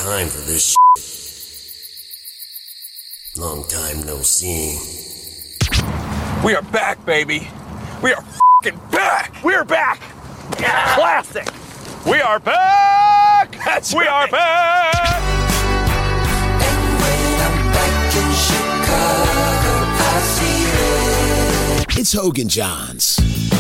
time for this shit. Long time no see. We are back, baby. We are f***ing back. We're back. Yeah. Classic. We are back. That's we right. Are back. And when I'm back in Chicago, I see red. It's Hogan Johns.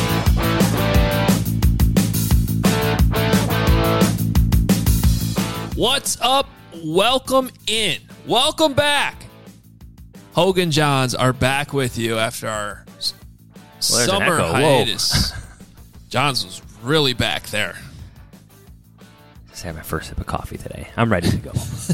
What's up? Welcome in. Welcome back. Hogan Johns are back with you after our summer hiatus. Johns was really back there. Just had my first sip of coffee today. I'm ready to go.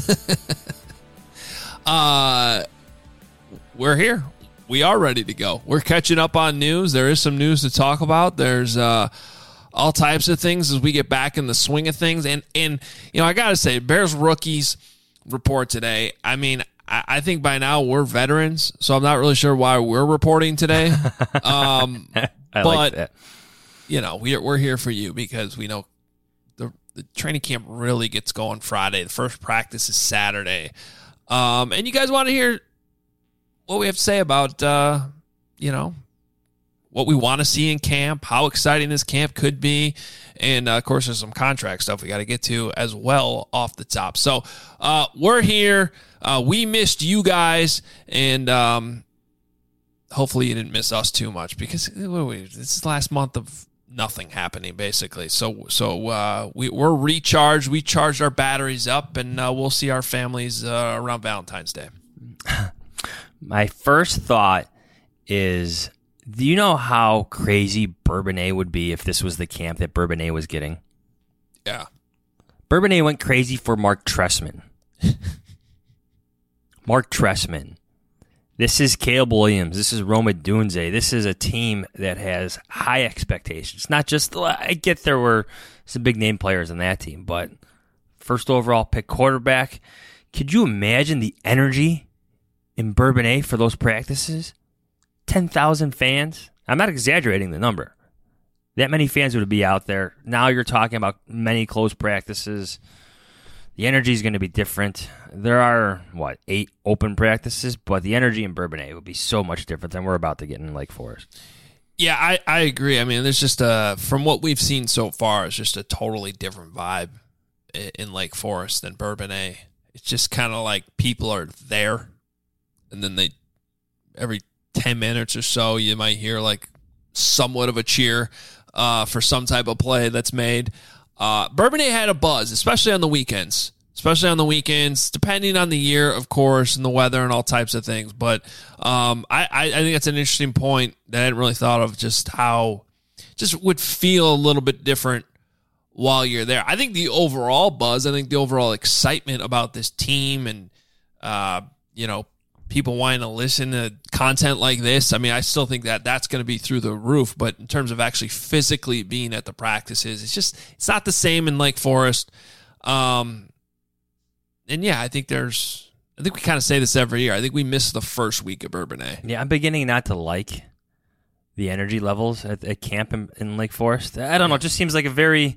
We're here. We are ready to go. We're catching up on news. There is some news to talk about. There's all types of things as we get back in the swing of things. And you know, I got to say, Bears rookies report today. I mean, I think by now we're veterans, so I'm not really sure why we're reporting today. I but, like that. You know, we're here for you because we know the training camp really gets going Friday. The first practice is Saturday. And you guys want to hear what we have to say about, you know, what we want to see in camp, how exciting this camp could be, and, of course, there's some contract stuff we got to get to as well off the top. So we're here. We missed you guys, and hopefully you didn't miss us too much because this is the last month of nothing happening, basically. So we're recharged. We charged our batteries up, and we'll see our families around Valentine's Day. My first thought is, do you know how crazy Bourbonnais would be if this was the camp that Bourbonnais was getting? Yeah. Bourbonnais went crazy for Mark Trestman. Mark Trestman. This is Caleb Williams. This is Rome Odunze. This is a team that has high expectations. Not just, I get there were some big name players on that team, but first overall pick quarterback. Could you imagine the energy in Bourbonnais for those practices? 10,000 fans. I'm not exaggerating the number. That many fans would be out there. Now you're talking about many close practices. The energy is going to be different. There are, 8 open practices, but the energy in Bourbonnais would be so much different than we're about to get in Lake Forest. Yeah, I agree. I mean, there's just from what we've seen so far, it's just a totally different vibe in Lake Forest than Bourbonnais. It's just kind of like people are there, and then every 10 minutes or so, you might hear like somewhat of a cheer for some type of play that's made. Bourbonnais had a buzz, especially on the weekends, depending on the year, of course, and the weather and all types of things. But I think that's an interesting point that I hadn't really thought of, just how just would feel a little bit different while you're there. I think the overall buzz, the overall excitement about this team and, you know, people wanting to listen to content like this, I mean, I still think that that's going to be through the roof. But in terms of actually physically being at the practices, it's not the same in Lake Forest. And yeah, I think we kind of say this every year. I think we miss the first week of Bourbonnais. Yeah, I'm beginning not to like the energy levels at camp in Lake Forest. I don't know. It just seems like a very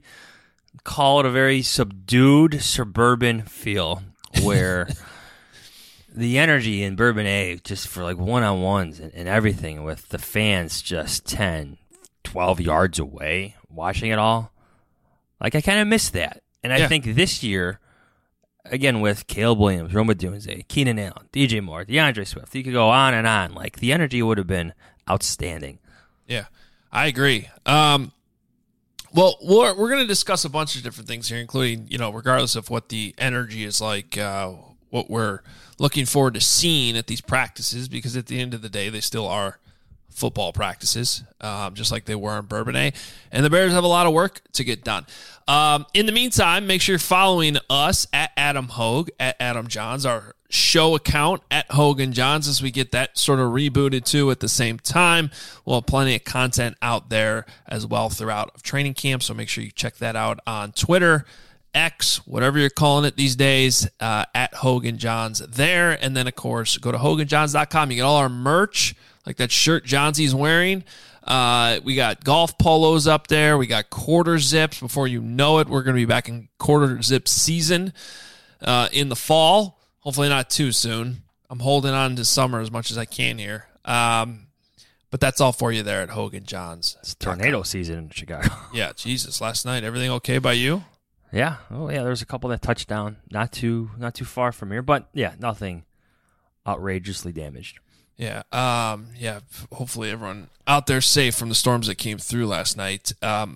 subdued suburban feel where the energy in Bourbonnais, just for like one-on-ones and everything, with the fans just 10, 12 yards away watching it all. Like, I kind of miss that. And I think this year, again, with Caleb Williams, Rome Odunze, Keenan Allen, DJ Moore, DeAndre Swift, you could go on and on. Like, the energy would have been outstanding. Yeah, I agree. Well, we're going to discuss a bunch of different things here, including, you know, regardless of what the energy is like, what we're looking forward to seeing at these practices, because at the end of the day, they still are football practices, just like they were in Bourbonnais. And the Bears have a lot of work to get done. In the meantime, make sure you're following us at Adam Hogue, at Adam Johns, our show account at Hogan Johns, as we get that sort of rebooted too at the same time. We'll have plenty of content out there as well throughout training camp, so make sure you check that out on Twitter, X, whatever you're calling it these days, at Hogan Johns there. And then, of course, go to HoganJohns.com. You get all our merch, like that shirt Johnsy's wearing. We got golf polos up there. We got quarter zips. Before you know it, we're going to be back in quarter zip season. in the fall. Hopefully not too soon. I'm holding on to summer as much as I can here. But that's all for you there at Hogan Johns. It's tornado season in Chicago. Yeah, Jesus. Last night, everything okay by you? Yeah. Oh, yeah. There's a couple that touched down. Not too far from here, but yeah, nothing outrageously damaged. Yeah. Yeah. Hopefully everyone out there safe from the storms that came through last night.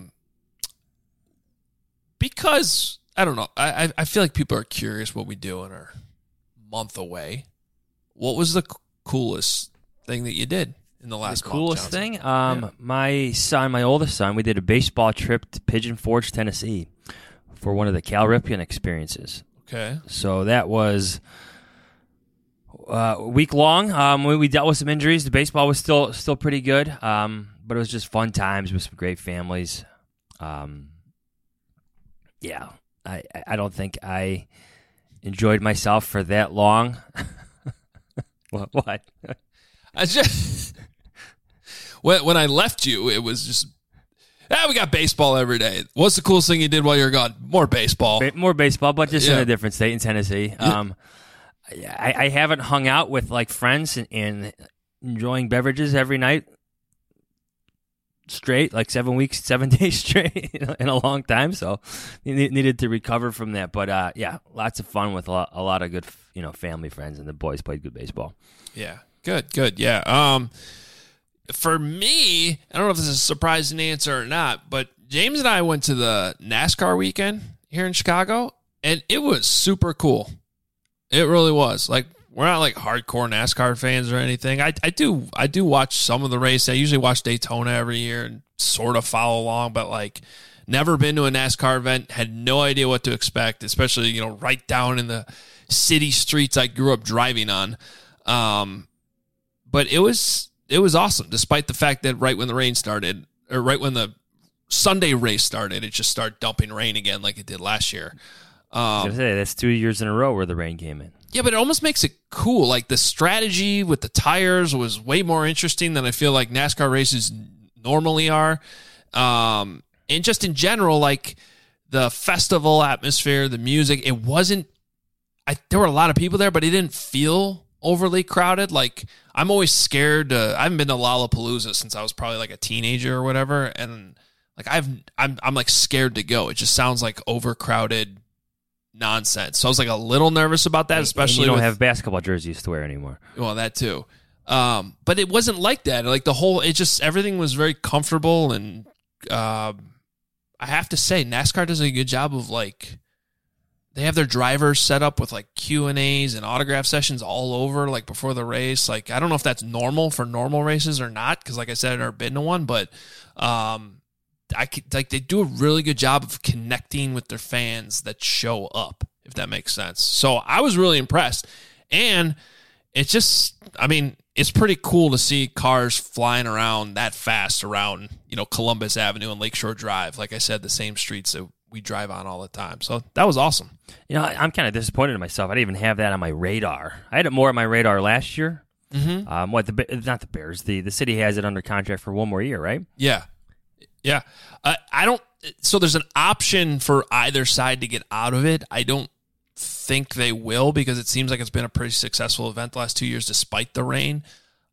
Because I don't know. I feel like people are curious what we do in our month away. What was the coolest thing that you did in the last month? The coolest thing? My oldest son, we did a baseball trip to Pigeon Forge, Tennessee for one of the Cal Ripken experiences. Okay. So that was a week long. We dealt with some injuries. The baseball was still pretty good, but it was just fun times with some great families. Yeah, I don't think I enjoyed myself for that long. What? I just when I left you, it was just we got baseball every day. What's the coolest thing you did while you were gone? More baseball. More baseball, but just in a different state in Tennessee. I haven't hung out with like friends and enjoying beverages every night straight, like 7 days straight in a long time. So needed to recover from that. But yeah, lots of fun with a lot of good, family friends, and the boys played good baseball. Yeah, good. Yeah. For me, I don't know if this is a surprising answer or not, but James and I went to the NASCAR weekend here in Chicago, and it was super cool. It really was. Like, we're not like hardcore NASCAR fans or anything. I do watch some of the race. I usually watch Daytona every year and sort of follow along, but like never been to a NASCAR event, had no idea what to expect, especially, right down in the city streets I grew up driving on. But it was awesome, despite the fact that right when the rain started, or right when the Sunday race started, it just started dumping rain again like it did last year. I was gonna say, that's 2 years in a row where the rain came in. Yeah, but it almost makes it cool. Like, the strategy with the tires was way more interesting than I feel like NASCAR races normally are. And just in general, like, the festival atmosphere, the music, it wasn't... there were a lot of people there, but it didn't feel overly crowded. Like, I'm always scared I haven't been to Lollapalooza since I was probably like a teenager or whatever, and like I'm like scared to go. It just sounds like overcrowded nonsense. So I was like a little nervous about that, especially and you don't have basketball jerseys to wear anymore. Well, that too. But it wasn't like that. Like everything was very comfortable, and I have to say, NASCAR does a good job of like, they have their drivers set up with like Q&As and autograph sessions all over, like before the race. Like, I don't know if that's normal for normal races or not, because like I said, I've never been to one, but they do a really good job of connecting with their fans that show up, if that makes sense. So I was really impressed. And it's just, it's pretty cool to see cars flying around that fast around, Columbus Avenue and Lakeshore Drive. Like I said, the same streets that we drive on all the time. So that was awesome. I'm kind of disappointed in myself. I didn't even have that on my radar. I had it more on my radar last year. Mm-hmm. Not the Bears. The city has it under contract for one more year, right? Yeah. Yeah. So there's an option for either side to get out of it. I don't think they will, because it seems like it's been a pretty successful event the last 2 years despite the rain.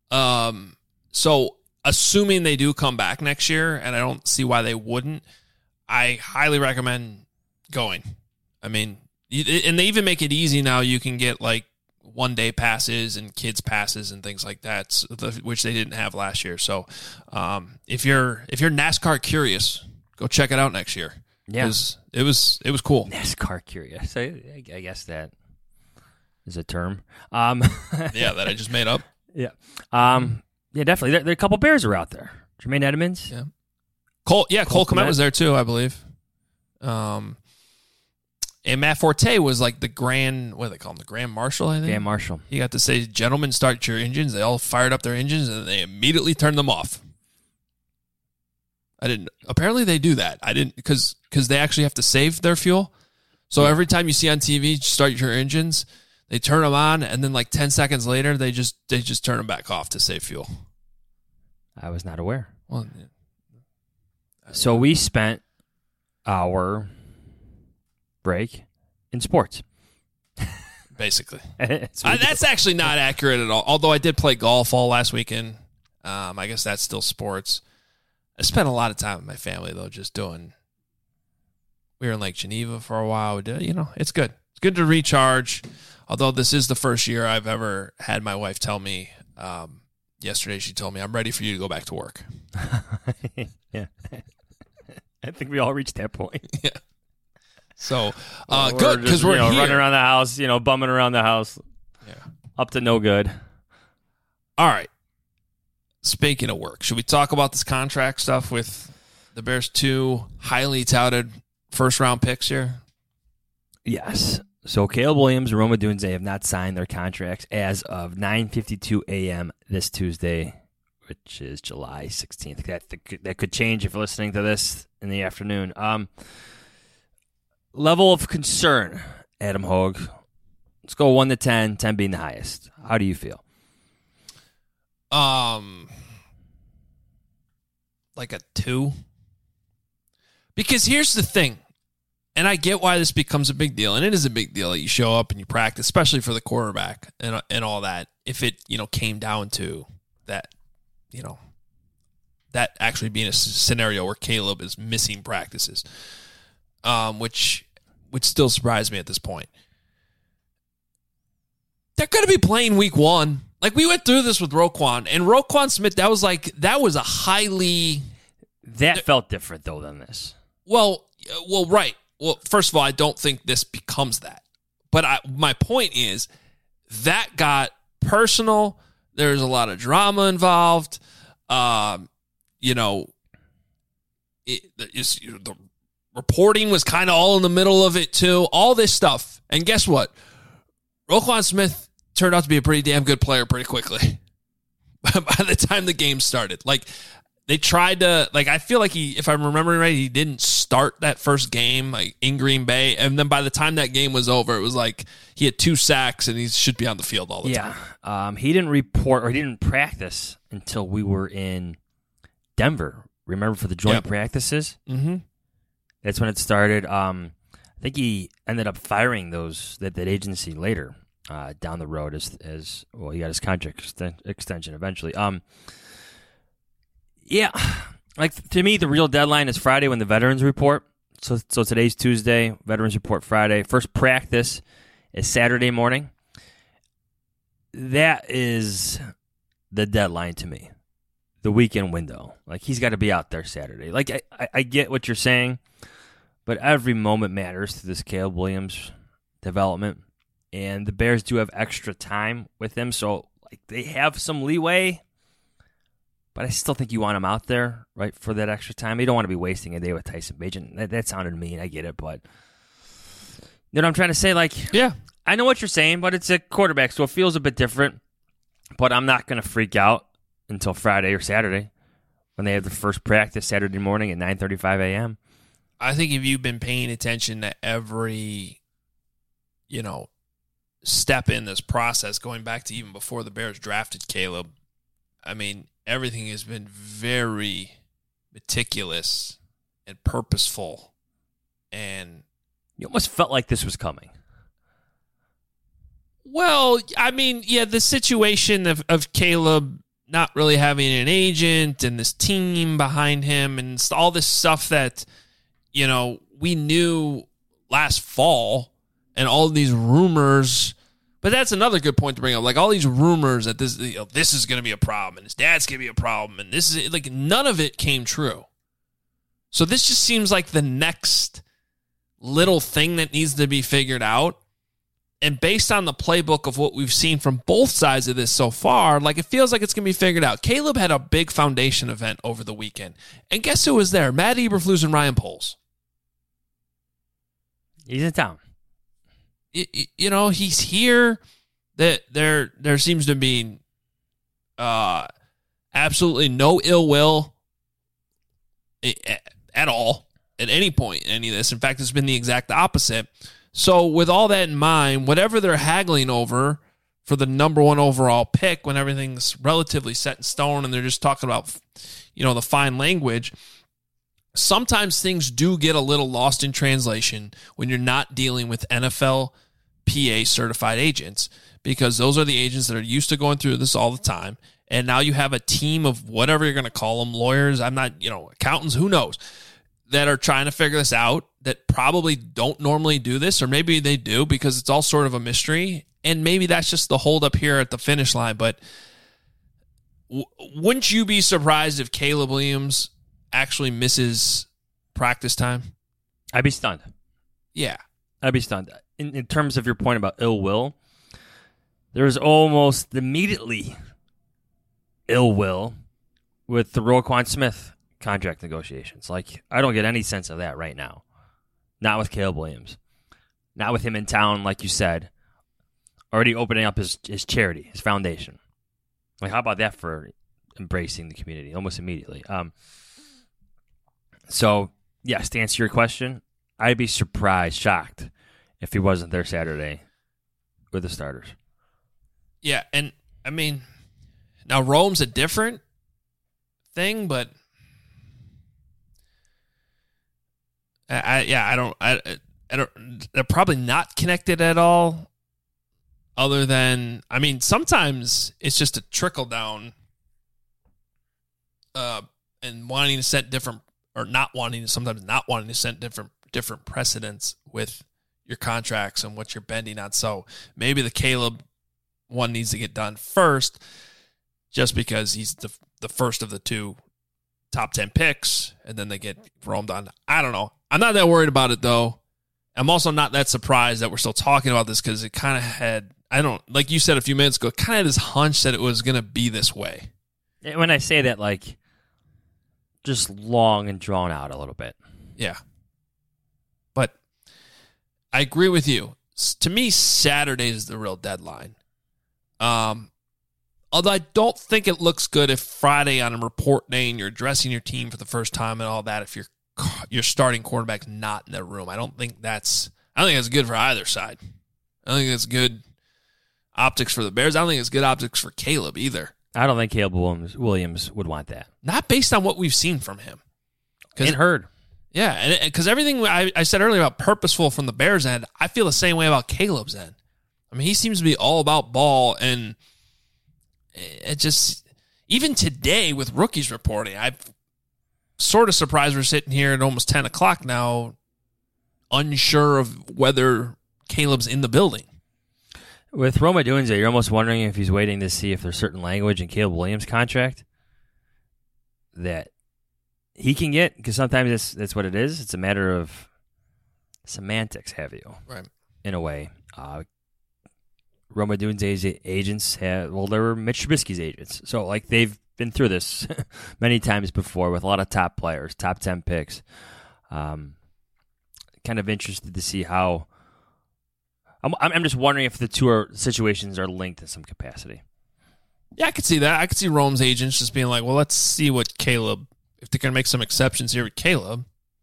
So assuming they do come back next year, and I don't see why they wouldn't, I highly recommend going. And they even make it easy now. You can get like 1 day passes and kids passes and things like that, which they didn't have last year. So if you're NASCAR curious, go check it out next year. Yeah, it was cool. NASCAR curious. I guess that is a term. Yeah, that I just made up. Yeah. Yeah, definitely. There are a couple Bears are out there. Jermaine Edmonds. Yeah. Cole Kmet was there too, I believe. And Matt Forte was like the grand, what do they call him? The Grand Marshal, I think? Grand Marshal. He got to say, "Gentlemen, start your engines." They all fired up their engines, and they immediately turned them off. Apparently they do that. I didn't, because they actually have to save their fuel. So every time you see on TV, start your engines, they turn them on, and then like 10 seconds later, they just turn them back off to save fuel. I was not aware. Well, so we spent our break in sports. basically. It's That's actually not accurate at all. Although I did play golf all last weekend. I guess that's still sports. I spent a lot of time with my family, though, just doing... We were in Lake Geneva for a while. It's good. It's good to recharge. Although this is the first year I've ever had my wife tell me, yesterday she told me, I'm ready for you to go back to work. Yeah. I think we all reached that point. Yeah. So, good, because we're here. Running around the house, bumming around the house. Yeah. Up to no good. All right. Speaking of work, should we talk about this contract stuff with the Bears' 2 highly touted first-round picks here? Yes. So Caleb Williams and Rome Odunze have not signed their contracts as of 9:52 a.m. this Tuesday, which is July 16th. That could change if you're listening to this in the afternoon. Level of concern, Adam Hogue. Let's go 1 to 10, 10 being the highest. How do you feel? Like a 2. Because here's the thing, and I get why this becomes a big deal, and it is a big deal that you show up and you practice, especially for the quarterback and all that. If it came down to that, that actually being a scenario where Caleb is missing practices, which would still surprise me at this point. They're going to be playing week 1. Like, we went through this with Roquan, and Roquan Smith, that was a highly... That felt different, though, than this. Well, right. Well, first of all, I don't think this becomes that. But my point is, that got personal. There's a lot of drama involved. The reporting was kind of all in the middle of it, too. All this stuff. And guess what? Roquan Smith turned out to be a pretty damn good player pretty quickly by the time the game started. Like, they tried to, I feel like if I'm remembering right, he didn't start that first game in Green Bay. And then by the time that game was over, it was like he had 2 sacks and he should be on the field all the time. Yeah. He didn't report or he didn't practice until we were in Denver. Remember, for the joint practices? Mm-hmm. That's when it started. I think he ended up firing that agency later. Down the road as well, he got his contract extension eventually. To me, the real deadline is Friday when the veterans report. So today's Tuesday, veterans report Friday. First practice is Saturday morning. That is the deadline to me. The weekend window. He's got to be out there Saturday. I get what you're saying, but every moment matters to this Caleb Williams development. And the Bears do have extra time with him, so they have some leeway. But I still think you want him out there, right, for that extra time. You don't want to be wasting a day with Tyson Bagent. That sounded mean. I get it, but you know what I'm trying to say? Yeah, I know what you're saying, but it's a quarterback, so it feels a bit different. But I'm not going to freak out until Friday or Saturday when they have the first practice Saturday morning at 9:35 a.m. I think if you've been paying attention to every, step in this process, going back to even before the Bears drafted Caleb, I mean, everything has been very meticulous and purposeful. And you almost felt like this was coming. Well, I mean, yeah, the situation of Caleb not really having an agent and this team behind him and all this stuff that, we knew last fall, and all these rumors. But that's another good point to bring up. All these rumors that this is going to be a problem and his dad's going to be a problem, and this is none of it came true. So this just seems like the next little thing that needs to be figured out. And based on the playbook of what we've seen from both sides of this so far, it feels like it's going to be figured out. Caleb had a big foundation event over the weekend. And guess who was there? Matt Eberflus and Ryan Poles. He's in town. He's here. That there seems to be absolutely no ill will at all at any point in any of this. In fact, it's been the exact opposite. So with all that in mind, whatever they're haggling over for the number 1 overall pick, when everything's relatively set in stone and they're just talking about, the fine language, sometimes things do get a little lost in translation when you're not dealing with NFL PA certified agents, because those are the agents that are used to going through this all the time. And now you have a team of whatever you're going to call them, lawyers, I'm not, accountants, who knows, that are trying to figure this out, that probably don't normally do this, or maybe they do because it's all sort of a mystery. And maybe that's just the hold up here at the finish line. But wouldn't you be surprised if Caleb Williams actually misses practice time? I'd be stunned. Yeah. I'd be stunned. In terms of your point about ill will, there's almost immediately ill will with the Roquan Smith contract negotiations. Like, I don't get any sense of that right now. Not with Caleb Williams. Not with him in town, like you said, already opening up his charity, his foundation. Like, how about that for embracing the community almost immediately? So, yes, to answer your question, I'd be surprised, shocked, if he wasn't there Saturday with the starters. Yeah, and I mean, now Rome's a different thing, but I don't. They're probably not connected at all. Other than, I mean, sometimes it's just a trickle down, and wanting to set different, or not wanting to, sometimes not wanting to set different precedents with your contracts and what you're bending on. So maybe the Caleb one needs to get done first, just because he's the first of the two top 10 picks, and then they get roamed on. I don't know. I'm not that worried about it, though. I'm also not that surprised that we're still talking about this, because it kind of had, like you said a few minutes ago, kind of had this hunch that it was going to be this way. When I say that, like, just long and drawn out a little bit. Yeah. But I agree with you. To me, Saturday is the real deadline. Although I don't think it looks good if Friday on a report day and you're addressing your team for the first time and all that, if your starting quarterback's not in the room. I don't think that's good for either side. I don't think it's good optics for the Bears. I don't think it's good optics for Caleb either. I don't think Caleb Williams would want that. Not based on what we've seen from him. And heard. Yeah, because everything I said earlier about purposeful from the Bears' end, I feel the same way about Caleb's end. I mean, he seems to be all about ball, and it just, even today with rookies reporting, I'm sort of surprised we're sitting here at almost 10 o'clock now, unsure of whether Caleb's in the building. With Rome Odunze, you're almost wondering if he's waiting to see if there's certain language in Caleb Williams' contract that he can get, because sometimes that's what it is. It's a matter of semantics, have you? Right. In a way. Rome Odunze's agents they were Mitch Trubisky's agents. So, like, they've been through this many times before with a lot of top players, top 10 picks. Kind of interested to see how. I'm just wondering if the two situations are linked in some capacity. Yeah, I could see that. I could see Rome's agents just being like, well, let's see what Caleb, if they're going to make some exceptions here with Caleb,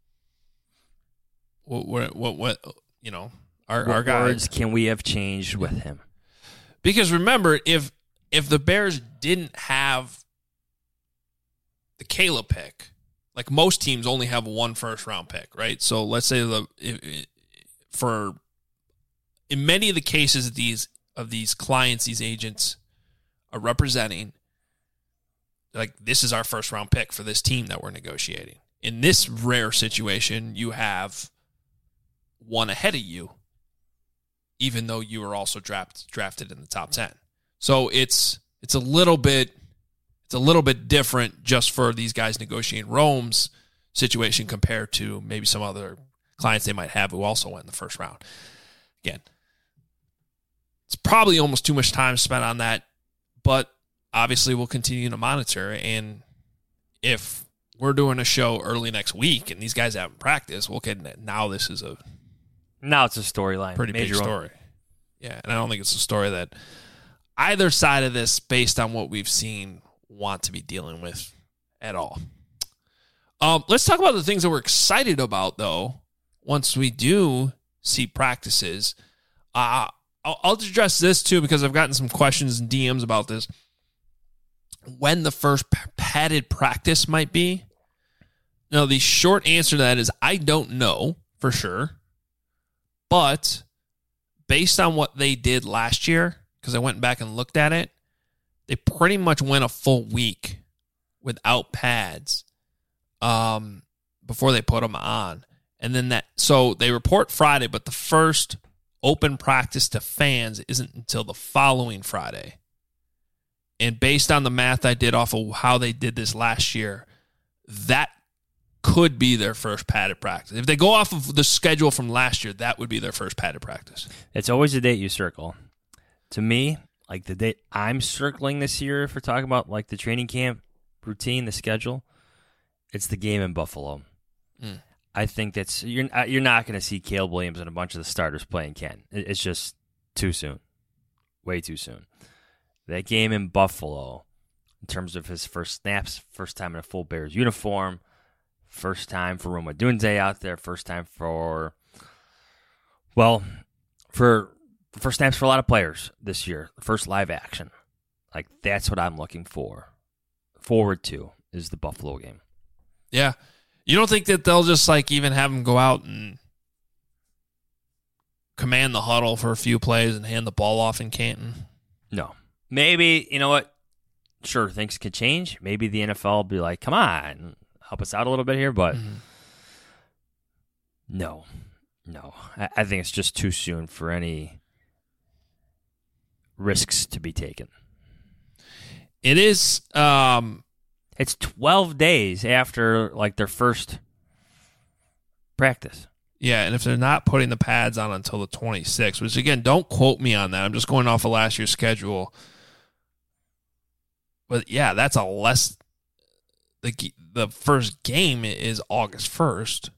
what our guys can we have changed with him? Because remember, if the Bears didn't have the Caleb pick, like most teams only have one first-round pick, right? So let's say in many of the cases of these clients, these agents are representing, like, this is our first-round pick for this team that we're negotiating. In this rare situation, you have one ahead of you, even though you were also drafted in the top 10. So it's a little bit different just for these guys negotiating Rome's situation compared to maybe some other clients they might have who also went in the first round. Again, it's probably almost too much time spent on that, but obviously we'll continue to monitor. And if we're doing a show early next week and these guys haven't practiced, we'll get it. Now this is now it's a storyline. Pretty big story. Yeah, and I don't think it's a story that either side of this, based on what we've seen, want to be dealing with at all. Let's talk about the things that we're excited about, though, once we do see practices. I'll address this, too, because I've gotten some questions and DMs about this. When the first padded practice might be. Now, the short answer to that is I don't know for sure. But based on what they did last year, because I went back and looked at it, they pretty much went a full week without pads before they put them on. And then so they report Friday, but the first open practice to fans isn't until the following Friday. And based on the math I did off of how they did this last year, that could be their first padded practice. If they go off of the schedule from last year, that would be their first padded practice. It's always the date you circle. To me, like the date I'm circling this year, if we're talking about like the training camp routine, the schedule, it's the game in Buffalo. I think that's you're not going to see Caleb Williams and a bunch of the starters playing Ken. It's just too soon, way too soon. That game in Buffalo, in terms of his first snaps, first time in a full Bears uniform, first time for Rome Odunze out there, first time for first snaps for a lot of players this year, first live action. Like that's what I'm looking forward to is the Buffalo game. Yeah. You don't think that they'll just like even have him go out and command the huddle for a few plays and hand the ball off in Canton? No. Maybe, you know what? Sure, things could change. Maybe the NFL will be like, come on, help us out a little bit here. But no. I think it's just too soon for any risks to be taken. It is... It's 12 days after like their first practice. Yeah, and if they're not putting the pads on until the 26th, which again, don't quote me on that. I'm just going off of last year's schedule. But yeah, that's a less. The first game is August 1st.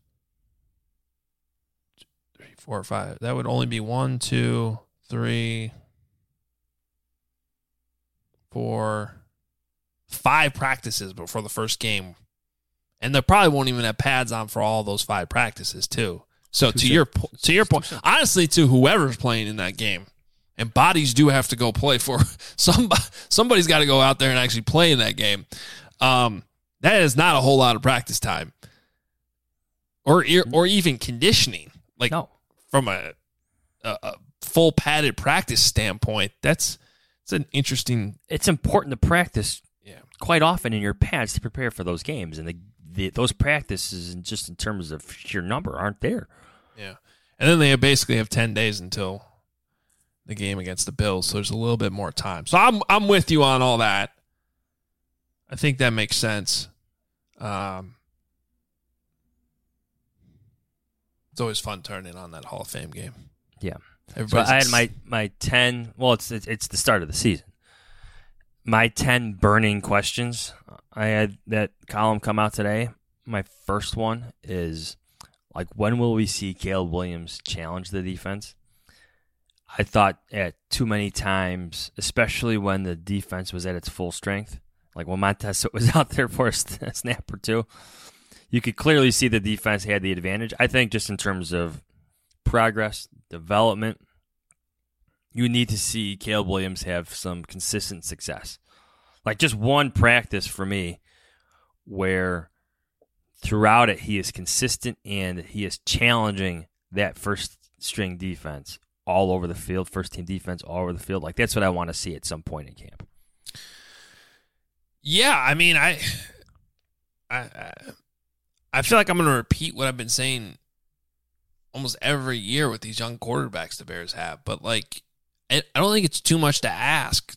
3, 4, 5. That would only be 1, 2, 3, 4. 5 practices before the first game. And they probably won't even have pads on for all those 5 practices too. So to your point, honestly, to whoever's playing in that game, and bodies do have to go play for somebody's got to go out there and actually play in that game. That is not a whole lot of practice time, or even conditioning. Like from a full padded practice standpoint, it's an interesting. It's important to practice. Quite often in your pads to prepare for those games, and those practices, just in terms of sheer number, aren't there. Yeah, and then they basically have 10 days until the game against the Bills, so there's a little bit more time. So I'm with you on all that. I think that makes sense. It's always fun turning on that Hall of Fame game. Yeah, so I had my 10. Well, it's the start of the season. My 10 burning questions. I had that column come out today. My first one is, like, when will we see Caleb Williams challenge the defense? I thought at too many times, especially when the defense was at its full strength, like when Montez was out there for a snap or two, you could clearly see the defense had the advantage. I think just in terms of progress, development, you need to see Caleb Williams have some consistent success. Like just one practice for me where throughout it he is consistent and he is challenging that first-string defense all over the field, first-team defense all over the field. Like that's what I want to see at some point in camp. Yeah, I mean, I feel like I'm going to repeat what I've been saying almost every year with these young quarterbacks the Bears have, but like I don't think it's too much to ask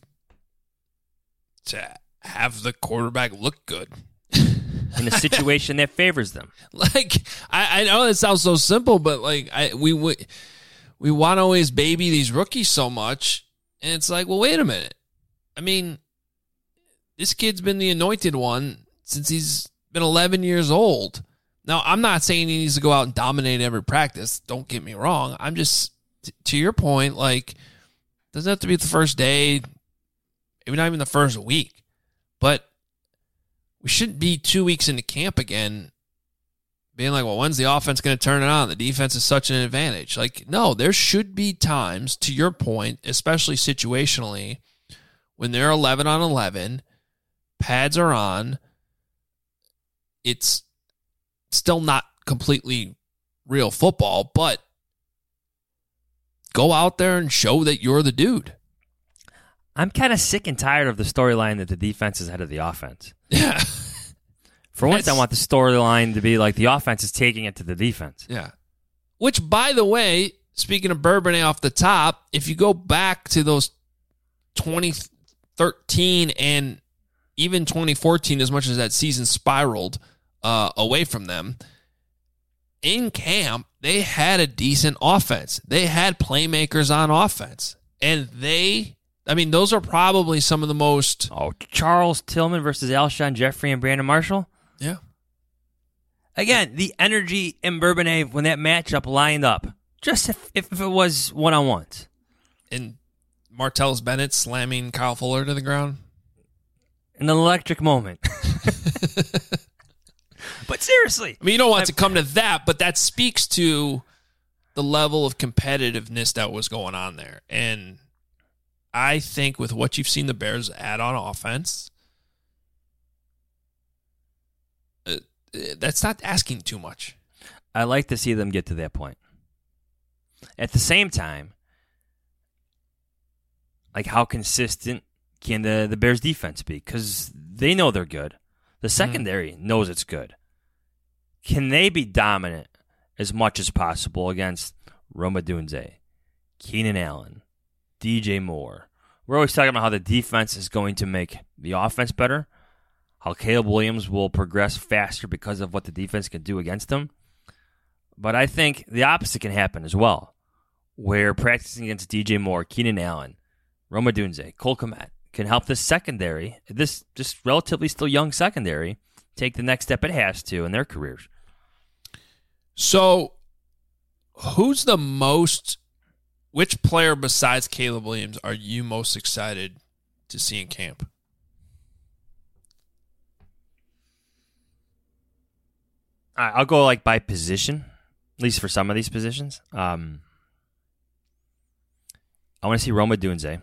to have the quarterback look good in a situation that favors them. Like I know it sounds so simple, but like we want to always baby these rookies so much, and it's like, well, wait a minute. I mean, this kid's been the anointed one since he's been 11 years old. Now, I'm not saying he needs to go out and dominate every practice. Don't get me wrong. I'm just, to your point, like, doesn't have to be the first day, maybe not even the first week. But we shouldn't be 2 weeks into camp again being like, well, when's the offense going to turn it on? The defense is such an advantage. Like, no, there should be times, to your point, especially situationally, when they're 11 on 11, pads are on, it's still not completely real football, but go out there and show that you're the dude. I'm kind of sick and tired of the storyline that the defense is ahead of the offense. Yeah. For once, I want the storyline to be like the offense is taking it to the defense. Yeah. Which, by the way, speaking of Bourbonnais off the top, if you go back to those 2013 and even 2014, as much as that season spiraled away from them, in camp, they had a decent offense. They had playmakers on offense. And those are probably some of the most... Oh, Charles Tillman versus Alshon Jeffrey and Brandon Marshall? Yeah. Again, the energy in Bourbonnais when that matchup lined up. Just if it was one-on-ones. And Martellus Bennett slamming Kyle Fuller to the ground. An electric moment. But seriously. I mean, you don't want it to come to that, but that speaks to the level of competitiveness that was going on there. And I think with what you've seen the Bears add on offense, that's not asking too much. I like to see them get to that point. At the same time, like how consistent can the Bears defense be? Because they know they're good. The secondary knows it's good. Can they be dominant as much as possible against Rome Odunze, Keenan Allen, DJ Moore? We're always talking about how the defense is going to make the offense better, how Caleb Williams will progress faster because of what the defense can do against them. But I think the opposite can happen as well, where practicing against DJ Moore, Keenan Allen, Rome Odunze, Cole Kmet can help this secondary, this just relatively still young secondary, take the next step it has to in their careers. So, which player besides Caleb Williams are you most excited to see in camp? I'll go like by position, at least for some of these positions. I want to see Rome Odunze.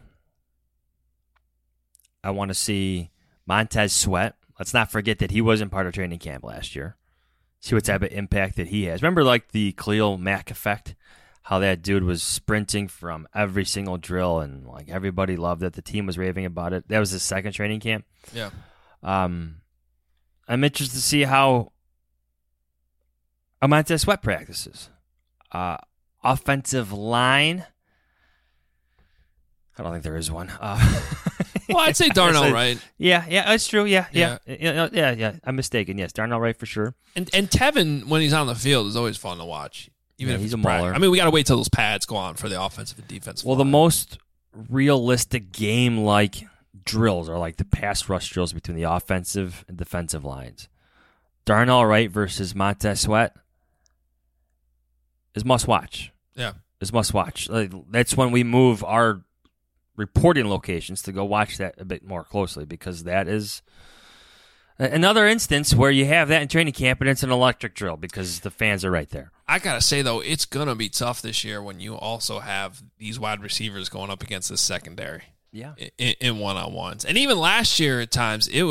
I want to see Montez Sweat. Let's not forget that he wasn't part of training camp last year. See what type of impact that he has. Remember like the Khalil Mack effect? How that dude was sprinting from every single drill and like everybody loved it. The team was raving about it. That was his second training camp. Yeah. I'm interested to see how Montez Sweat practices. Offensive line. I don't think there is one. Well, I'd say Darnell Wright. Yeah, that's true. Yeah. I'm mistaken. Yes, Darnell Wright for sure. And Tevin, when he's on the field, is always fun to watch. Even if he's it's a mauler. I mean, we got to wait till those pads go on for the offensive and defensive Well, line. the most realistic game-like drills are like the pass rush drills between the offensive and defensive lines. Darnell Wright versus Montez Sweat is must-watch. Yeah. Is must-watch. That's when we move our reporting locations to go watch that a bit more closely because that is another instance where you have that in training camp and it's an electric drill because the fans are right there. I got to say, though, it's going to be tough this year when you also have these wide receivers going up against this secondary. Yeah. In one-on-ones. And even last year at times, it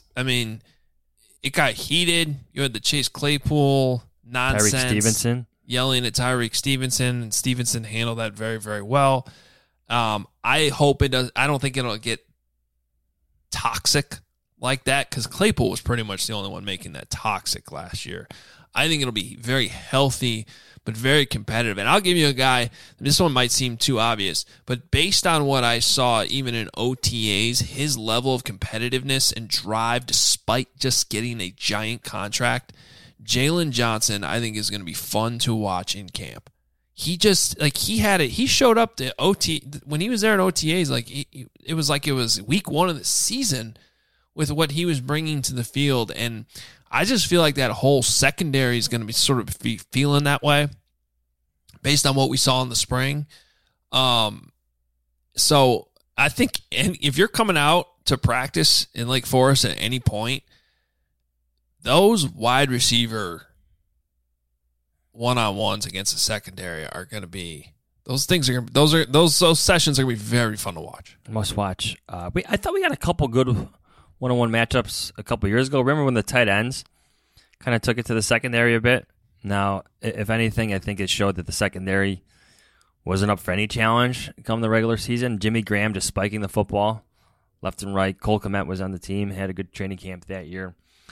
got heated. You had the Chase Claypool nonsense. Tyreek Stevenson. Yelling at Tyreek Stevenson, and Stevenson handled that very, very well. I hope it does. I don't think it'll get toxic like that because Claypool was pretty much the only one making that toxic last year. I think it'll be very healthy, but very competitive. And I'll give you a guy, this one might seem too obvious, but based on what I saw even in OTAs, his level of competitiveness and drive despite just getting a giant contract, Jalen Johnson, I think, is going to be fun to watch in camp. He just, he showed up to when he was there in OTAs, it was week one of the season with what he was bringing to the field. And I just feel like that whole secondary is going to be sort of feeling that way based on what we saw in the spring. So I think if you're coming out to practice in Lake Forest at any point, those wide receiver one-on-ones against the secondary are going to be those sessions are going to be very fun to watch. Must watch. I thought we got a couple good one-on-one matchups a couple years ago. Remember when the tight ends kind of took it to the secondary a bit? Now, if anything, I think it showed that the secondary wasn't up for any challenge come the regular season. Jimmy Graham just spiking the football left and right. Cole Kmet was on the team, had a good training camp that year.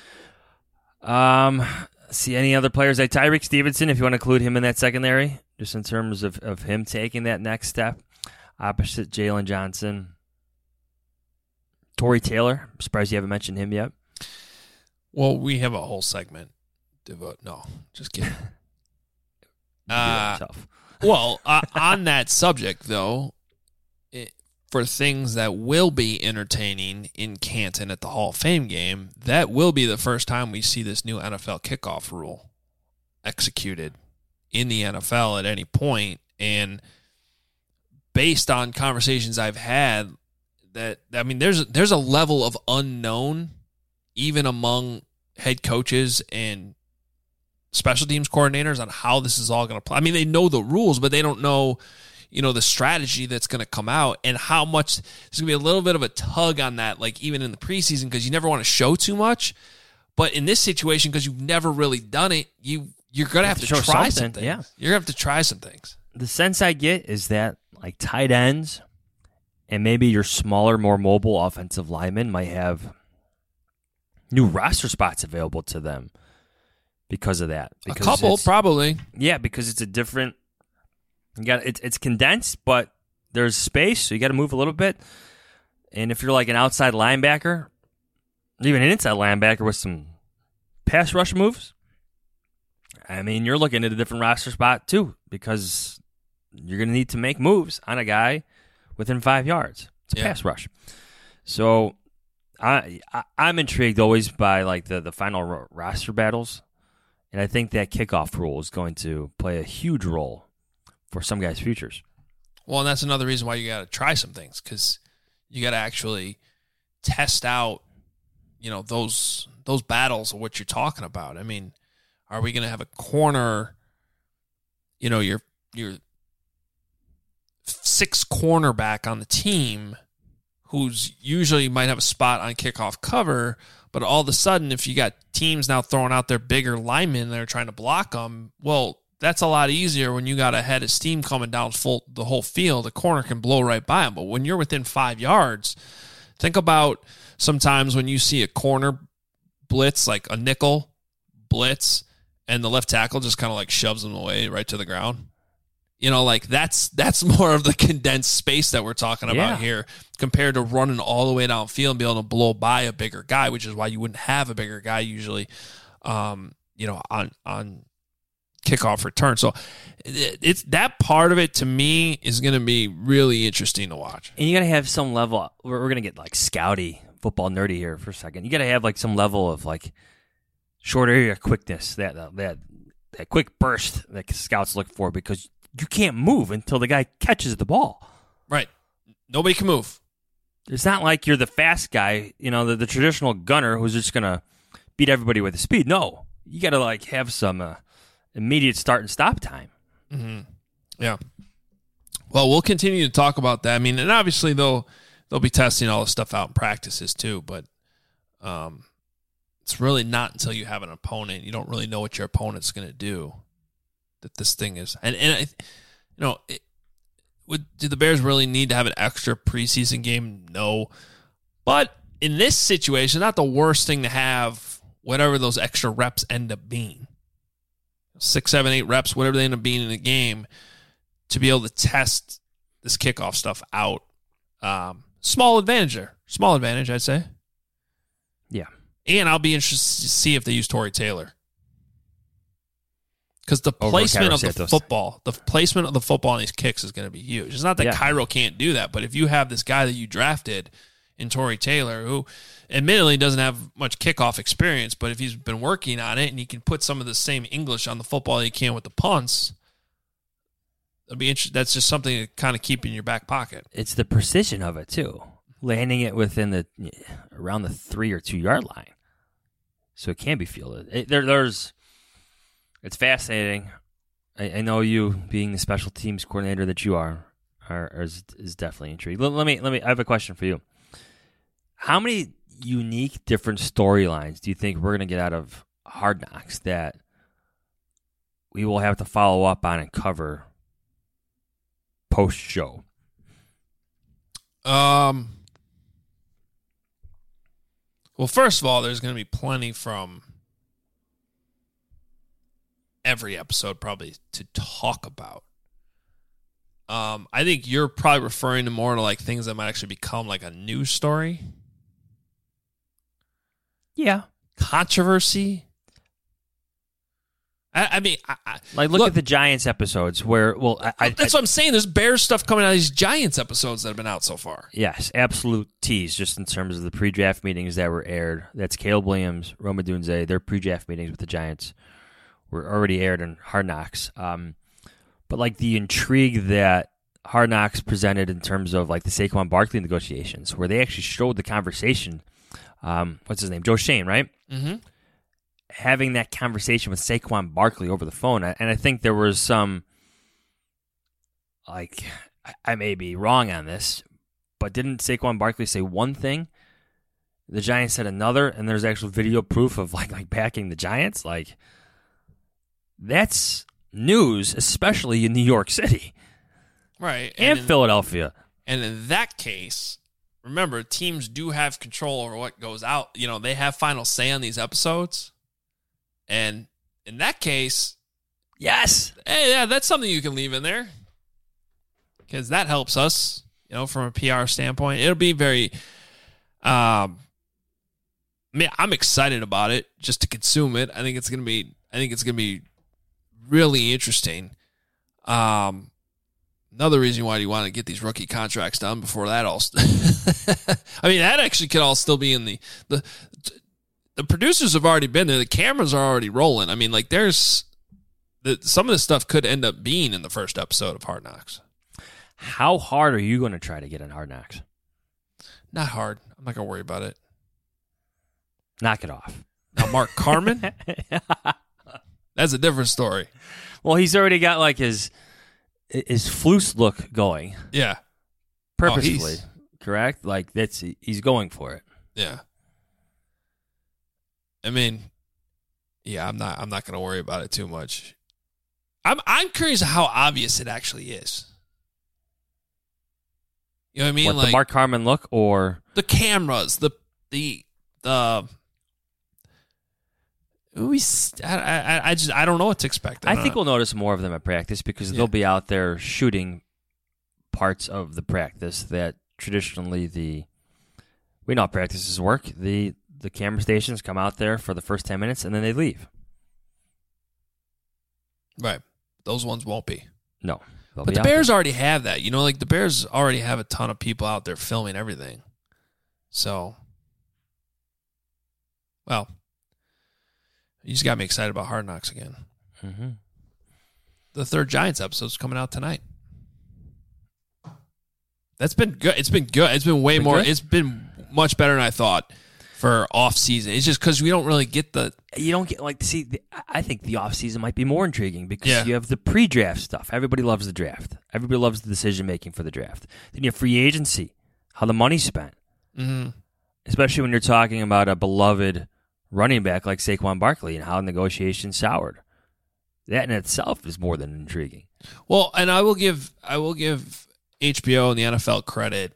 See any other players like Tyreek Stevenson, if you want to include him in that secondary, just in terms of him taking that next step, opposite Jalen Johnson. Torrey Taylor, I'm surprised you haven't mentioned him yet. Well, we have a whole segment devote. No, just kidding. Tough. Well, on that subject, though, for things that will be entertaining in Canton at the Hall of Fame game, that will be the first time we see this new NFL kickoff rule executed in the NFL at any point. And based on conversations I've had, there's a level of unknown even among head coaches and special teams coordinators on how this is all going to play. I mean, they know the rules, but they don't know, the strategy that's going to come out and how much there's going to be a little bit of a tug on that, like even in the preseason, because you never want to show too much. But in this situation, because you've never really done it, you're going to have to try some things. Yeah. You're going to have to try some things. The sense I get is that like tight ends and maybe your smaller, more mobile offensive linemen might have new roster spots available to them because of that. A couple, probably. Yeah, because it's a different. It's condensed, but there's space, so you got to move a little bit. And if you're like an outside linebacker, even an inside linebacker with some pass rush moves, I mean, you're looking at a different roster spot too, because you're going to need to make moves on a guy within 5 yards. It's a pass rush. So I'm intrigued always by like the final roster battles, and I think that kickoff rule is going to play a huge role for some guys' futures. Well, and that's another reason why you got to try some things, because you got to actually test out, those battles of what you're talking about. I mean, are we going to have a corner, your sixth cornerback on the team who's usually might have a spot on kickoff cover, but all of a sudden, if you got teams now throwing out their bigger linemen, they're trying to block them, well, that's a lot easier when you got a head of steam coming down the whole field. A corner can blow right by them. But when you're within 5 yards, think about sometimes when you see a corner blitz, like a nickel blitz, and the left tackle just kind of like shoves them away right to the ground. That's more of the condensed space that we're talking about here compared to running all the way downfield and be able to blow by a bigger guy, which is why you wouldn't have a bigger guy usually, on kickoff return. So it's that part of it to me is going to be really interesting to watch. And you got to have some level. We're going to get like scouty, football nerdy here for a second. You got to have like some level of like short area quickness, that quick burst that scouts look for, because you can't move until the guy catches the ball. Right. Nobody can move. It's not like you're the fast guy, the traditional gunner who's just going to beat everybody with his speed. No, you got to like have some immediate start and stop time. Mm-hmm. Yeah. Well, we'll continue to talk about that. I mean, and obviously they'll be testing all this stuff out in practices too, but it's really not until you have an opponent, you don't really know what your opponent's going to do, that this thing is. And do the Bears really need to have an extra preseason game? No. But in this situation, not the worst thing to have, whatever those extra reps end up being. 6, 7, 8 reps, whatever they end up being in a game, to be able to test this kickoff stuff out. Small advantage there. Small advantage, I'd say. Yeah. And I'll be interested to see if they use Torrey Taylor. Because the placement of the football on these kicks is going to be huge. It's not that Cairo can't do that, but if you have this guy that you drafted in Torrey Taylor, who admittedly doesn't have much kickoff experience, but if he's been working on it and he can put some of the same English on the football he can with the punts, it'll be interesting. That's just something to kind of keep in your back pocket. It's the precision of it too, landing it within around the 3 or 2 yard line, so it can be fielded. It's fascinating. I know you, being the special teams coordinator that you are is definitely intrigued. Let me. I have a question for you. How many unique, different storylines do you think we're going to get out of Hard Knocks that we will have to follow up on and cover post show? Well, first of all, there's going to be plenty from every episode probably to talk about. I think you're probably referring to more to like things that might actually become like a news story. Yeah. Controversy. I mean, look at the Giants episodes where, that's what I'm saying. There's Bears stuff coming out of these Giants episodes that have been out so far. Yes, absolute tease just in terms of the pre-draft meetings that were aired. That's Caleb Williams, Rome Odunze. Their pre-draft meetings with the Giants were already aired in Hard Knocks. But like the intrigue that Hard Knocks presented in terms of like the Saquon Barkley negotiations, where they actually showed the conversation. What's his name? Joe Shane, right? Mm-hmm. Having that conversation with Saquon Barkley over the phone. And I think there was some, like, I may be wrong on this, but didn't Saquon Barkley say one thing? The Giants said another, and there's actual video proof of like backing the Giants. Like, that's news, especially in New York City. Right. And Philadelphia. And in that case, remember, teams do have control over what goes out. You know, they have final say on these episodes. And in that case, yes. Hey, yeah, that's something you can leave in there. Because that helps us, you know, from a PR standpoint. It'll be very I mean, I'm excited about it just to consume it. I think it's gonna be really interesting. Another reason why you want to get these rookie contracts done before that all. I mean, that actually could all still be in the producers have already been there. The cameras are already rolling. I mean, like some of this stuff could end up being in the first episode of Hard Knocks. How hard are you going to try to get in Hard Knocks? Not hard. I'm not going to worry about it. Knock it off. Now, Mark Carman, that's a different story. Well, he's already got like his Floose look going. Yeah. Purposefully, correct? Like he's going for it. Yeah. I mean, yeah, I'm not going to worry about it too much. I'm curious how obvious it actually is. You know what I mean? What, like the Mark Carman look or the cameras, I don't know what to expect. I think we'll notice more of them at practice because they'll be out there shooting parts of the practice that traditionally we know how practices work. The camera stations come out there for the first 10 minutes and then they leave. Right. Those ones won't be. No. But the Bears already have that. You know, like the Bears already have a ton of people out there filming everything. So, well, you just got me excited about Hard Knocks again. Mm-hmm. The third Giants episode is coming out tonight. That's been good. It's been good. It's been way more. Good? It's been much better than I thought for off season. It's just because we don't really get you don't get I think the off season might be more intriguing because you have the pre-draft stuff. Everybody loves the draft. Everybody loves the decision making for the draft. Then you have free agency, how the money's spent, especially when you're talking about a beloved running back like Saquon Barkley and how negotiations soured. That in itself is more than intriguing. Well, and I will give HBO and the NFL credit.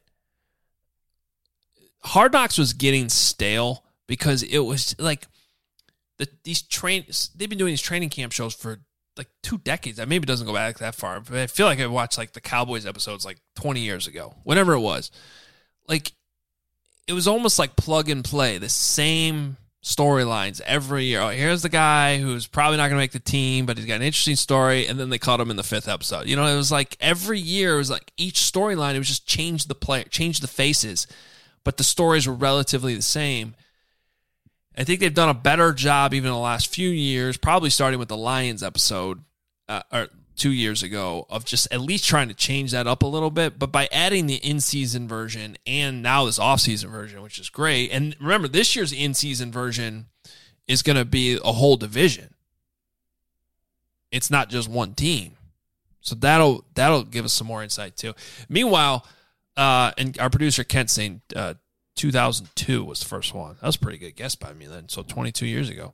Hard Knocks was getting stale because it was like they've been doing these training camp shows for like 2 decades. Maybe it doesn't go back that far, but I feel like I watched like the Cowboys episodes like 20 years ago, whenever it was. Like it was almost like plug and play, the same storylines every year. Oh, here's the guy who's probably not going to make the team, but he's got an interesting story, and then they caught him in the 5th episode. You know, it was like every year, it was like each storyline, it was just change the player, change the faces, but the stories were relatively the same. I think they've done a better job even in the last few years, probably starting with the Lions episode or 2 years ago, of just at least trying to change that up a little bit. But by adding the in-season version and now this off-season version, which is great. And remember, this year's in-season version is going to be a whole division. It's not just one team. So that'll give us some more insight too. Meanwhile, and our producer Kent saying 2002 was the first one. That was a pretty good guess by me then. So 22 years ago.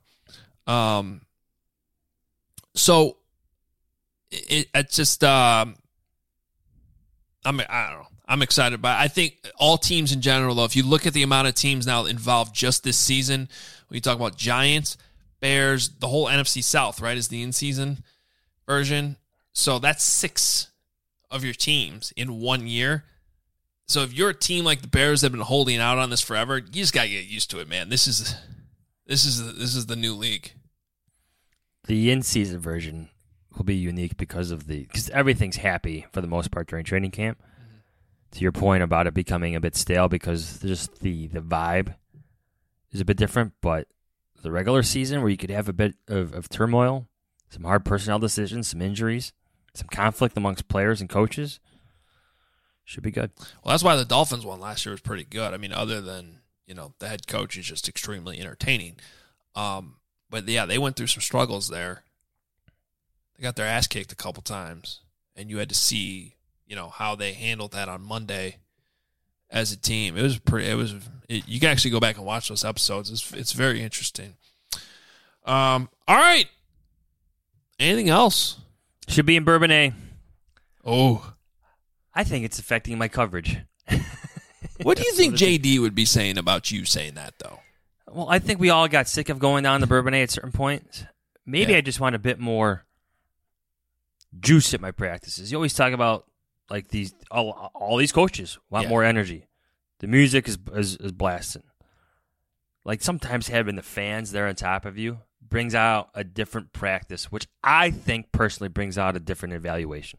So it's just I don't know. I'm excited by it. I think all teams in general, though, if you look at the amount of teams now involved just this season, when you talk about Giants, Bears, the whole NFC South, right, is the in-season version. So that's 6 of your teams in 1 year. So if you're a team like the Bears that have been holding out on this forever, you just got to get used to it, man. This is the new league. The in-season version will be unique because everything's happy for the most part during training camp. Mm-hmm. To your point about it becoming a bit stale because just the vibe is a bit different, but the regular season where you could have a bit of turmoil, some hard personnel decisions, some injuries, some conflict amongst players and coaches, should be good. Well, that's why the Dolphins one last year was pretty good. I mean, other than, the head coach is just extremely entertaining. But yeah, they went through some struggles there. They got their ass kicked a couple times, and you had to see, how they handled that on Monday as a team. You can actually go back and watch those episodes. It's very interesting. All right. Anything else? Should be in Bourbonnais. Oh. I think it's affecting my coverage. What do you think JD would be saying about you saying that, though? Well, I think we all got sick of going down the Bourbonnais at certain points. Maybe I just want a bit more juice at my practices. You always talk about like all these coaches want more energy. The music is blasting. Like sometimes having the fans there on top of you brings out a different practice, which I think personally brings out a different evaluation.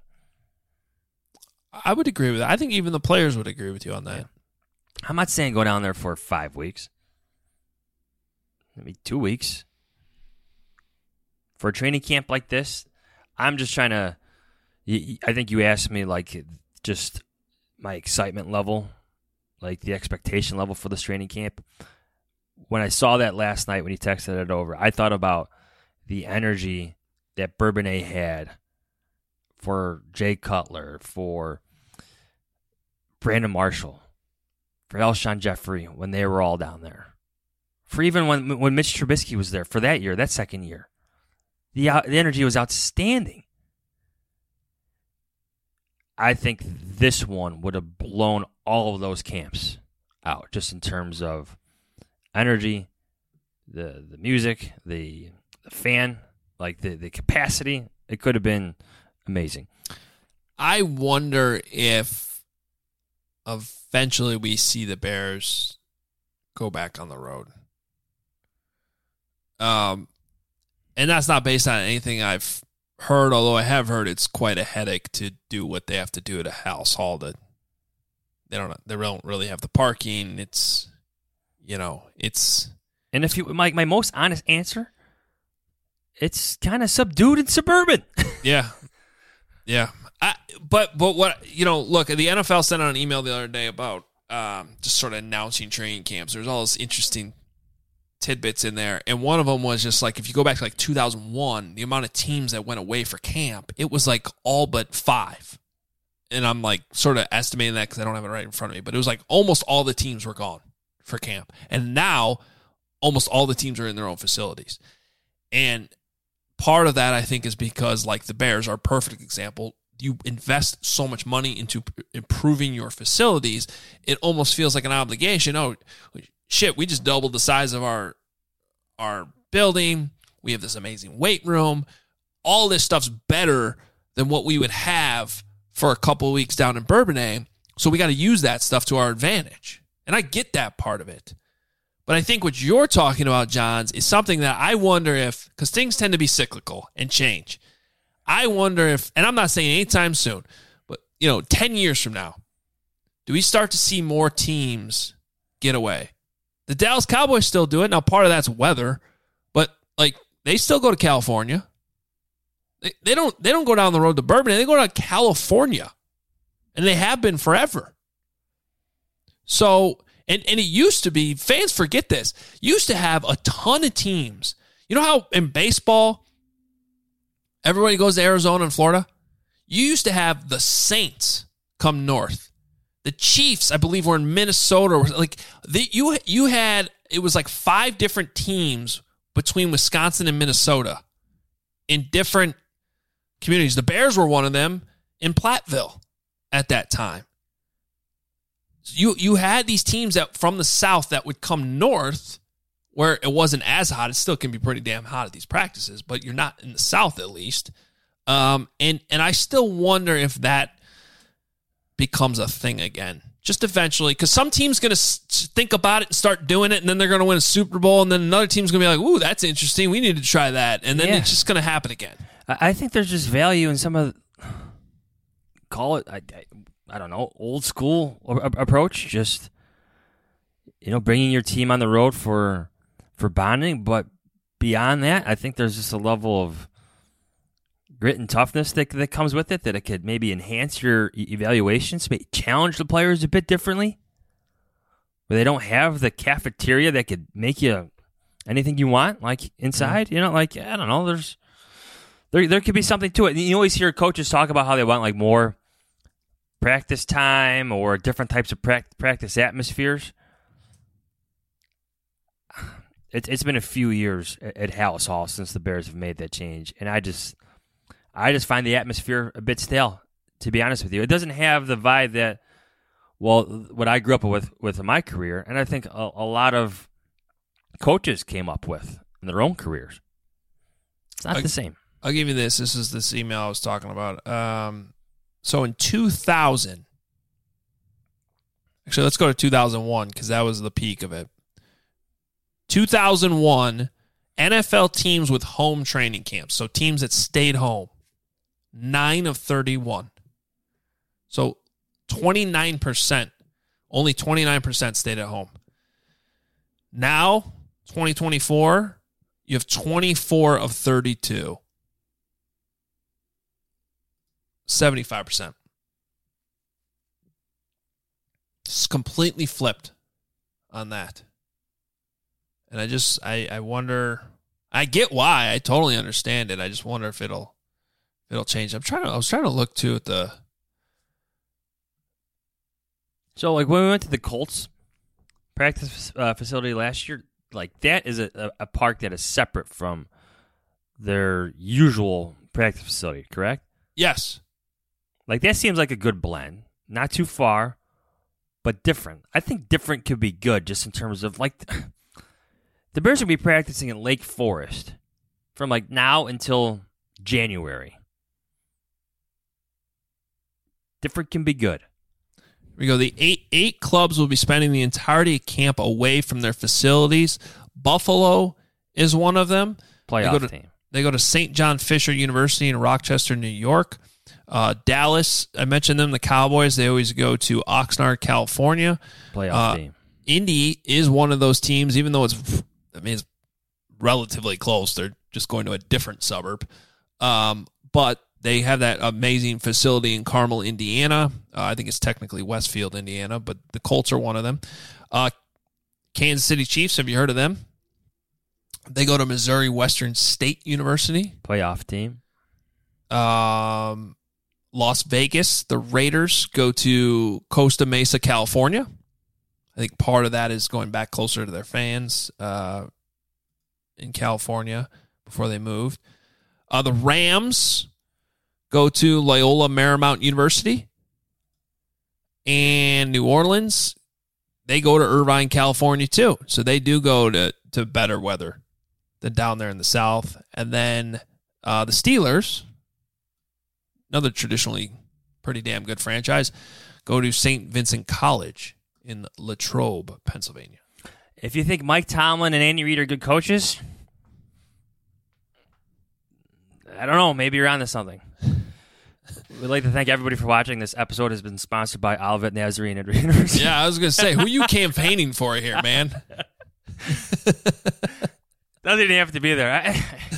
I would agree with that. I think even the players would agree with you on that. Yeah. I'm not saying go down there for 5 weeks. Maybe 2 weeks. For a training camp like this, I'm just trying to... I think you asked me, like, just my excitement level, like the expectation level for this training camp. When I saw that last night when he texted it over, I thought about the energy that Bourbonnais had for Jay Cutler, for Brandon Marshall, for Alshon Jeffrey when they were all down there. For even when Mitch Trubisky was there for that year, that second year. The energy was outstanding. I think this one would have blown all of those camps out, just in terms of energy, the music, the fan, like the capacity. It could have been amazing. I wonder if eventually we see the Bears go back on the road. And that's not based on anything I've heard, although I have heard it's quite a headache to do what they have to do at a house hall. That they don't really have the parking. It's, And if you my most honest answer, it's kind of subdued and suburban. Yeah. But what, look, the NFL sent out an email the other day about just sort of announcing training camps. There's all this interesting tidbits in there, and one of them was just like, if you go back to like 2001, the amount of teams that went away for camp, it was like all but 5. And I'm like sort of estimating that because I don't have it right in front of me, but it was like almost all the teams were gone for camp. And now almost all the teams are in their own facilities. And part of that, I think, is because, like, the Bears are a perfect example. You invest so much money into improving your facilities, it almost feels like an obligation. Oh, shit, we just doubled the size of our building. We have this amazing weight room. All this stuff's better than what we would have for a couple of weeks down in Bourbonnais, so we got to use that stuff to our advantage. And I get that part of it. But I think what you're talking about, Johns, is something that I wonder if, because things tend to be cyclical and change. I wonder if, and I'm not saying anytime soon, but 10 years from now, do we start to see more teams get away? The Dallas Cowboys still do it. Now, part of that's weather, but like they still go to California. They don't go down the road to Bourbonnais. They go to California, and they have been forever. So, and it used to be, fans forget this, used to have a ton of teams. You know how in baseball, everybody goes to Arizona and Florida? You used to have the Saints come north. The Chiefs, I believe, were in Minnesota. Like you had, it was like 5 different teams between Wisconsin and Minnesota in different communities. The Bears were one of them in Platteville. at that time. You had these teams that from the South that would come north where it wasn't as hot. It still can be pretty damn hot at these practices, but you're not in the South at least. And I still wonder if that becomes a thing again. Just eventually, because some team's going to think about it and start doing it, and then they're going to win a Super Bowl, and then another team's going to be like, ooh, that's interesting. We need to try that. And then it's just going to happen again. I think there's just value in some of, call it, I don't know, old school approach. Just, bringing your team on the road for bonding. But beyond that, I think there's just a level of grit and toughness that comes with it, that it could maybe enhance your evaluations, maybe challenge the players a bit differently, where they don't have the cafeteria that could make you anything you want, like inside. I don't know, there could be something to it. You always hear coaches talk about how they want like more practice time or different types of practice atmospheres. It's been a few years at Halas Hall since the Bears have made that change, and I just find the atmosphere a bit stale, to be honest with you. It doesn't have the vibe that, what I grew up with in my career, and I think a lot of coaches came up with in their own careers. It's not the same. I'll give you this. This is this email I was talking about. So in 2000, actually, let's go to 2001 because that was the peak of it. 2001, NFL teams with home training camps, so teams that stayed home, 9 of 31. So 29%, only 29% stayed at home. Now, 2024, you have 24 of 32. 75%. It's completely flipped on that. And I wonder, I get why. I totally understand it. I just wonder if it'll change. I was trying to look too at the. So like when we went to the Colts practice facility last year, like that is a park that is separate from their usual practice facility, correct? Yes. Like that seems like a good blend. Not too far, but different. I think different could be good just in terms of like the Bears will be practicing in Lake Forest from like now until January. Different can be good. Here we go. The eight clubs will be spending the entirety of camp away from their facilities. Buffalo is one of them. Playoff team. They go to St. John Fisher University in Rochester, New York. Dallas, I mentioned them, the Cowboys. They always go to Oxnard, California. Playoff team. Indy is one of those teams, even though it's relatively close. They're just going to a different suburb. But they have that amazing facility in Carmel, Indiana. I think it's technically Westfield, Indiana, but the Colts are one of them. Kansas City Chiefs, have you heard of them? They go to Missouri Western State University. Playoff team. Las Vegas, the Raiders go to Costa Mesa, California. I think part of that is going back closer to their fans in California before they moved. The Rams go to Loyola Marymount University. And New Orleans, they go to Irvine, California, too. So they do go to better weather than down there in the South. And then the Steelers, another traditionally pretty damn good franchise, go to St. Vincent College in Latrobe, Pennsylvania. If you think Mike Tomlin and Andy Reid are good coaches, I don't know. Maybe you're onto something. We'd like to thank everybody for watching. This episode has been sponsored by Olivet Nazarene University. Yeah, I was going to say, who are you campaigning for here, man? Doesn't even have to be there.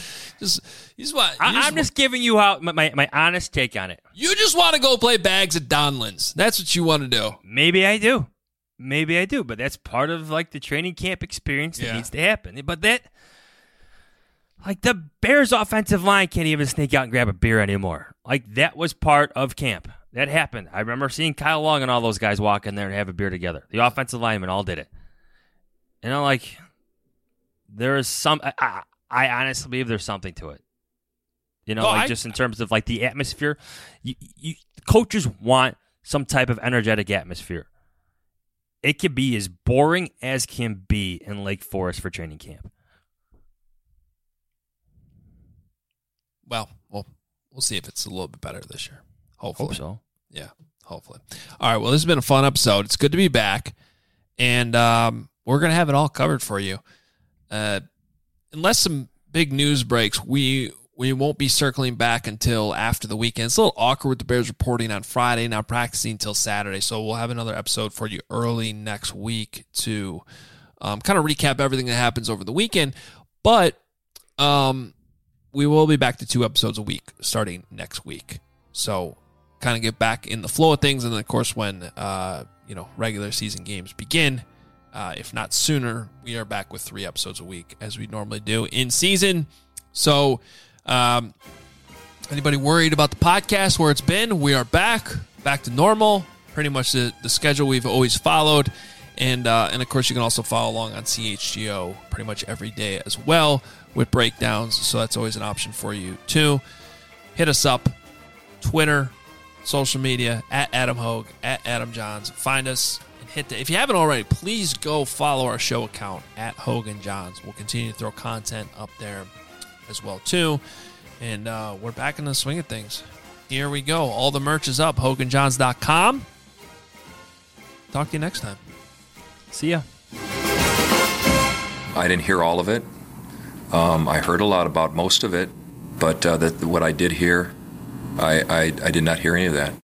I'm just giving you my honest take on it. You just want to go play bags at Donlands. That's what you want to do. Maybe I do. But that's part of like the training camp experience that needs to happen. But that, like the Bears' offensive line can't even sneak out and grab a beer anymore. Like that was part of camp. That happened. I remember seeing Kyle Long and all those guys walk in there and have a beer together. The offensive linemen all did it. And I'm like, there is some. I honestly believe there's something to it. You know, just in terms of like the atmosphere, coaches want some type of energetic atmosphere. It could be as boring as can be in Lake Forest for training camp. Well, we'll see if it's a little bit better this year. Hopefully. Hope so. Yeah, hopefully. All right, well, this has been a fun episode. It's good to be back, and we're going to have it all covered for you. Unless some big news breaks, we won't be circling back until after the weekend. It's a little awkward with the Bears reporting on Friday, now practicing until Saturday, so we'll have another episode for you early next week to kind of recap everything that happens over the weekend, but we will be back to 2 episodes a week starting next week. So kind of get back in the flow of things. And then, of course, when regular season games begin, if not sooner, we are back with 3 episodes a week as we normally do in season. So anybody worried about the podcast, where it's been, we are back to normal, pretty much the schedule we've always followed. And of course, you can also follow along on CHGO pretty much every day as well with breakdowns. So that's always an option for you too. Hit us up, Twitter, social media, at Adam Hogue, at Adam Johns. Find us and if you haven't already, please go follow our show account at Hogue and Johns. We'll continue to throw content up there as well too. And we're back in the swing of things. Here we go. All the merch is up, HogueandJohns.com. Talk to you next time. See ya. I didn't hear all of it. I heard a lot about most of it, but what I did hear, I did not hear any of that.